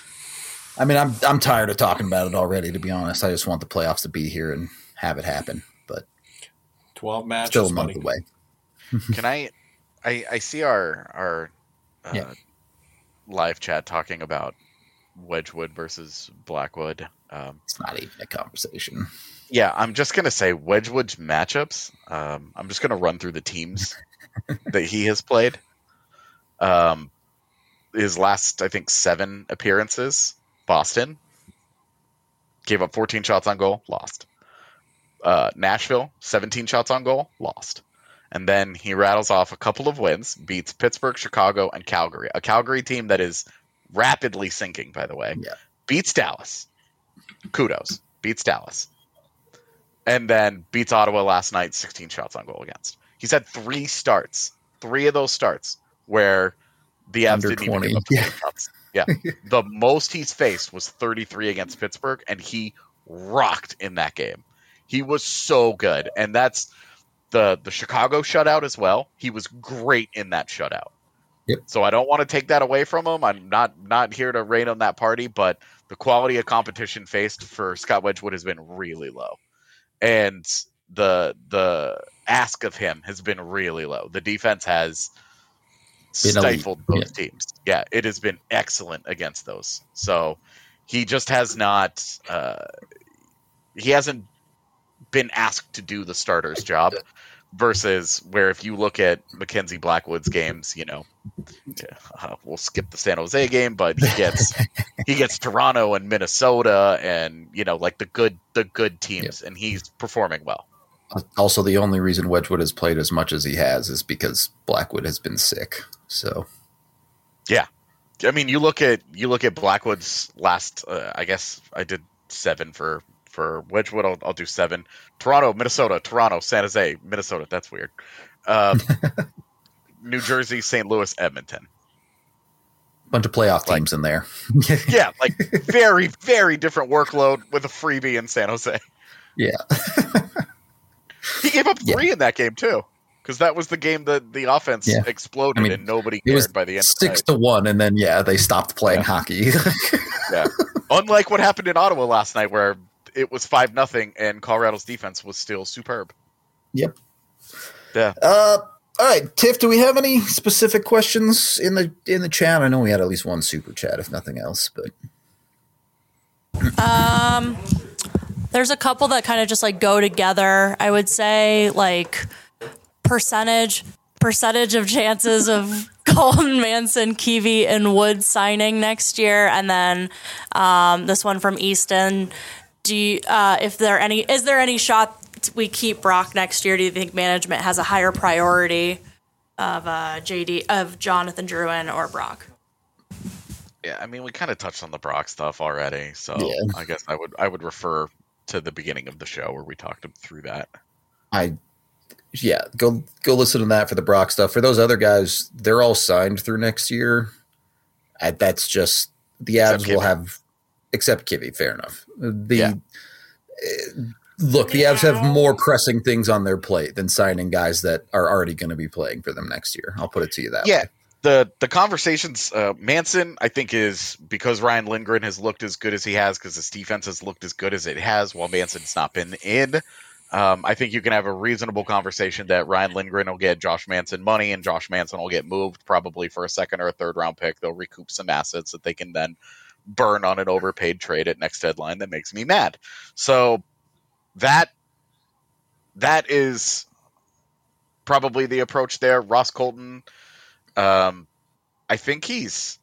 I mean, I'm tired of talking about it already, to be honest. I just want the playoffs to be here and have it happen. But 12 matches, still a month away. Can I see our live chat talking about Wedgwood versus Blackwood. It's not even a conversation. Yeah, I'm just going to say Wedgwood's matchups. I'm just going to run through the teams that he has played. His last, I think, 7 appearances, Boston. Gave up 14 shots on goal, lost. Nashville, 17 shots on goal, lost. And then he rattles off a couple of wins, beats Pittsburgh, Chicago, and Calgary. A Calgary team that is rapidly sinking, by the way. Yeah. Beats Dallas. Kudos. Beats Dallas. And then beats Ottawa last night, 16 shots on goal against. He's had 3 starts. 3 of those starts where the Avs didn't even give up 20 shots. Yeah. The most he's faced was 33 against Pittsburgh, and he rocked in that game. He was so good. And that's the Chicago shutout as well. He was great in that shutout. Yep. So I don't want to take that away from him. I'm not here to rain on that party, but the quality of competition faced for Scott Wedgwood has been really low. And the ask of him has been really low. The defense has stifled those teams. Yeah, it has been excellent against those. So he just has not he hasn't been asked to do the starter's job versus where if you look at Mackenzie Blackwood's games, we'll skip the San Jose game, but he gets Toronto and Minnesota and like the good teams, and he's performing well. Also, the only reason Wedgwood has played as much as he has is because Blackwood has been sick. So, yeah, I mean, you look at Blackwood's last. I guess I did 7 for Wedgwood. I'll do 7. Toronto, Minnesota, Toronto, San Jose, Minnesota. That's weird. New Jersey, St. Louis, Edmonton. Bunch of playoff teams in there. Yeah, like very, very different workload with a freebie in San Jose. Yeah. He gave up 3 in that game too, because that was the game that the offense exploded and nobody cared by the end. 6-1, and then they stopped playing hockey. Yeah, unlike what happened in Ottawa last night, where it was 5-0, and Colorado's defense was still superb. Yep. Yeah. All right, Tiff. Do we have any specific questions in the chat? I know we had at least one super chat, if nothing else, but. There's a couple that kind of just go together. I would say percentage of chances of Colton, Manson, Keavy, and Wood signing next year, and then this one from Easton. Is there any shot we keep Brock next year? Do you think management has a higher priority of Jonathan Drouin or Brock? Yeah, I mean, we kind of touched on the Brock stuff already, so I guess I would refer to the beginning of the show where we talked through that. Go listen to that for the Brock stuff. For those other guys, they're all signed through next year. That's just the Avs will have, except Kivy. Fair enough. The Avs have more pressing things on their plate than signing guys that are already going to be playing for them next year. I'll put it to you that way. The conversations, Manson, I think, is because Ryan Lindgren has looked as good as he has because his defense has looked as good as it has while Manson's not been in. I think you can have a reasonable conversation that Ryan Lindgren will get Josh Manson money and Josh Manson will get moved probably for a 2nd or a 3rd round pick. They'll recoup some assets that they can then burn on an overpaid trade at next deadline. That makes me mad. So that is probably the approach there. Ross Colton, I think he's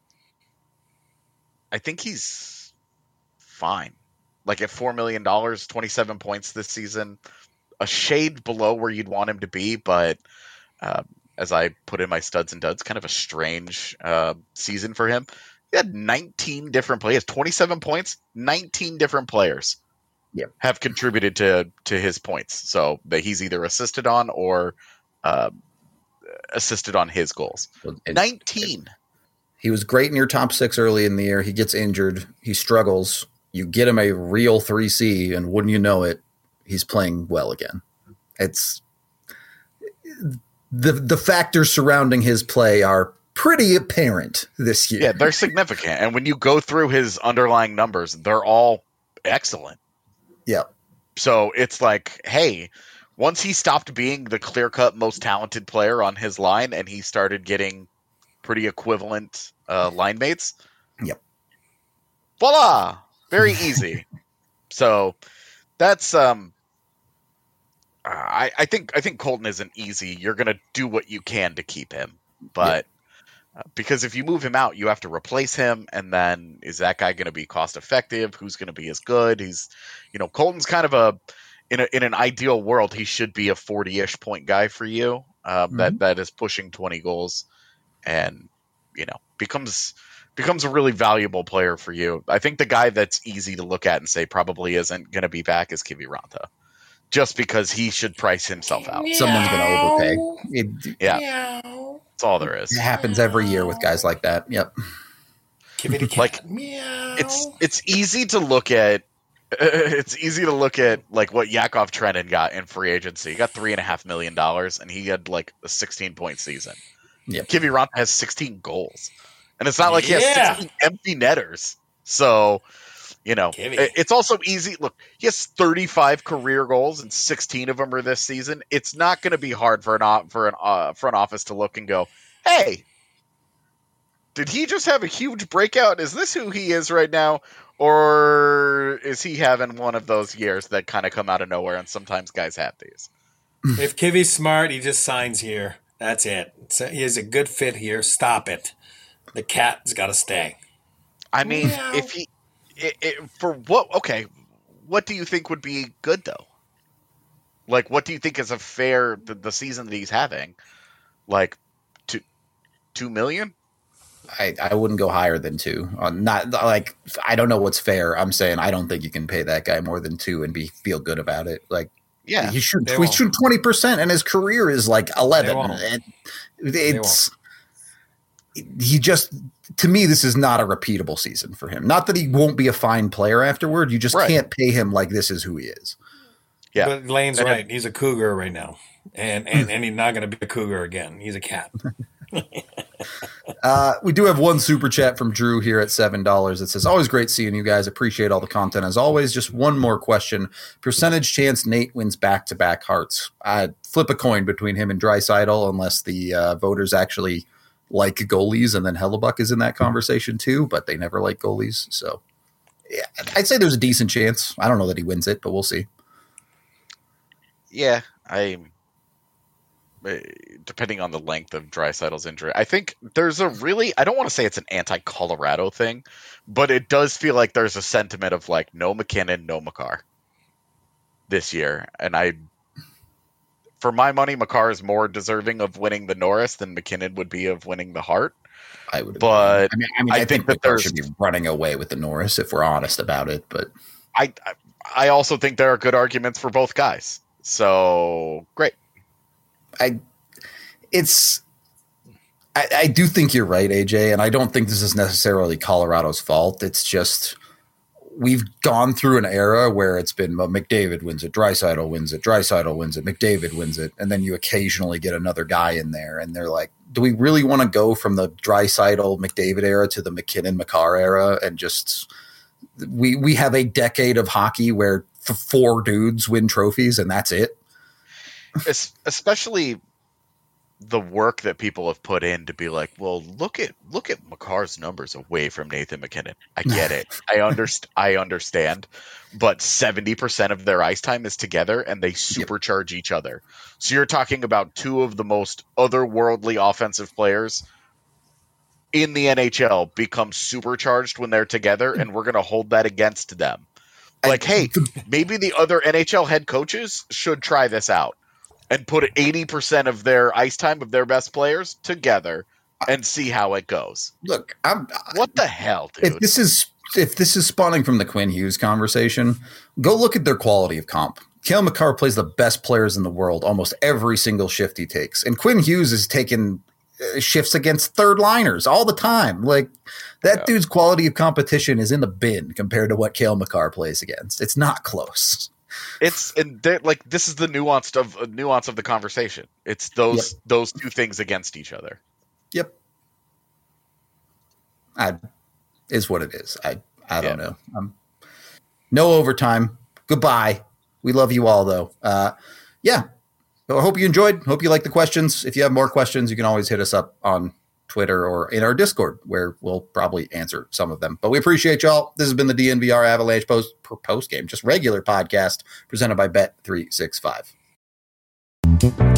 fine. Like at $4 million, 27 points this season, a shade below where you'd want him to be, but as I put in my studs and duds, kind of a strange season for him. He had 19 different players, 27 points, 19 different players have contributed to his points. So that he's either assisted on or assisted on his goals. 19. He was great in your top 6 early in the year. He gets injured. He struggles. You get him a real 3C, and wouldn't you know it, he's playing well again. It's the factors surrounding his play are pretty apparent this year. Yeah, they're significant. And when you go through his underlying numbers, they're all excellent. Yeah. So it's like, hey, once he stopped being the clear-cut most talented player on his line and he started getting pretty equivalent line mates. Yep. Voila! Very easy. So that's I think Colton isn't easy. You're gonna do what you can to keep him, but because if you move him out, you have to replace him, and then is that guy going to be cost effective? Who's going to be as good? He's, Colton's kind of in an ideal world, he should be a 40-ish point guy for you. That is pushing 20 goals, and becomes a really valuable player for you. I think the guy that's easy to look at and say probably isn't going to be back is Kiviranta, just because he should price himself out. Someone's going to overpay. Yeah. That's all there is. It happens every year with guys like that. Yep. Like it's easy to look at. It's easy to look at like what Yakov Trenin got in free agency. He got $3.5 million, and he had like a 16-point season. Yep. Kiviranta has 16 goals, and it's not like he has 16 empty netters. So, it's also easy. Look, he has 35 career goals, and 16 of them are this season. It's not going to be hard for an front office to look and go, "Hey, did he just have a huge breakout? Is this who he is right now, or is he having one of those years that kind of come out of nowhere?" And sometimes guys have these. If Kivi's smart, he just signs here. That's it. He is a good fit here. Stop it. The cat's got to stay. I mean, if he. For what? Okay, what do you think would be good though? Like, what do you think is a fair the season that he's having? Like, $2 million? I wouldn't go higher than 2. Not like I don't know what's fair. I'm saying I don't think you can pay that guy more than 2 and feel good about it. Like, yeah, he should 20%, and his career is like 11. And he just. To me, this is not a repeatable season for him. Not that he won't be a fine player afterward. You just can't pay him like this is who he is. Yeah, but Lane's right. He's a cougar right now, and he's not going to be a cougar again. He's a cat. We do have one super chat from Drew here at $7. It says, "Always great seeing you guys. Appreciate all the content as always. Just one more question: percentage chance Nate wins back-to-back Hearts? I'd flip a coin between him and Draisaitl, unless the voters actually." Like goalies, and then Hellebuck is in that conversation too, but they never like goalies. So yeah, I'd say there's a decent chance. I don't know that he wins it, but we'll see. Yeah, depending on the length of Draisaitl's injury, I think there's I don't want to say it's an anti-Colorado thing, but it does feel like there's a sentiment of like no McKinnon, no Makar this year. And for my money, Makar is more deserving of winning the Norris than McKinnon would be of winning the Hart. I would, but I think that Makar should be running away with the Norris if we're honest about it. But I also think there are good arguments for both guys. So great. I do think you're right, AJ, and I don't think this is necessarily Colorado's fault. It's just we've gone through an era where it's been McDavid wins it, Draisaitl wins it, Draisaitl wins it, McDavid wins it, and then you occasionally get another guy in there, and they're like, do we really want to go from the Draisaitl McDavid era to the McKinnon Makar era and just we have a decade of hockey where 4 dudes win trophies and that's it? Especially the work that people have put in to be like, well, look at Makar's numbers away from Nathan McKinnon. I get it. I understand. But 70% of their ice time is together and they supercharge each other. So you're talking about 2 of the most otherworldly offensive players in the NHL become supercharged when they're together, and we're going to hold that against them. Like, hey, maybe the other NHL head coaches should try this out and put 80% of their ice time of their best players together and see how it goes. Look, what the hell, dude? If this is spawning from the Quinn Hughes conversation, go look at their quality of comp. Cale Makar plays the best players in the world almost every single shift he takes. And Quinn Hughes is taking shifts against third liners all the time. Like that dude's quality of competition is in the bin compared to what Cale Makar plays against. It's not close. This is the nuance of the conversation. It's those 2 things against each other. Yep. is what it is. I don't know. No overtime. Goodbye. We love you all, though. Yeah. So I hope you enjoyed. Hope you like the questions. If you have more questions, you can always hit us up on Twitter or in our Discord, where we'll probably answer some of them. But we appreciate y'all. This has been the DNVR Avalanche post game, just regular podcast presented by Bet365.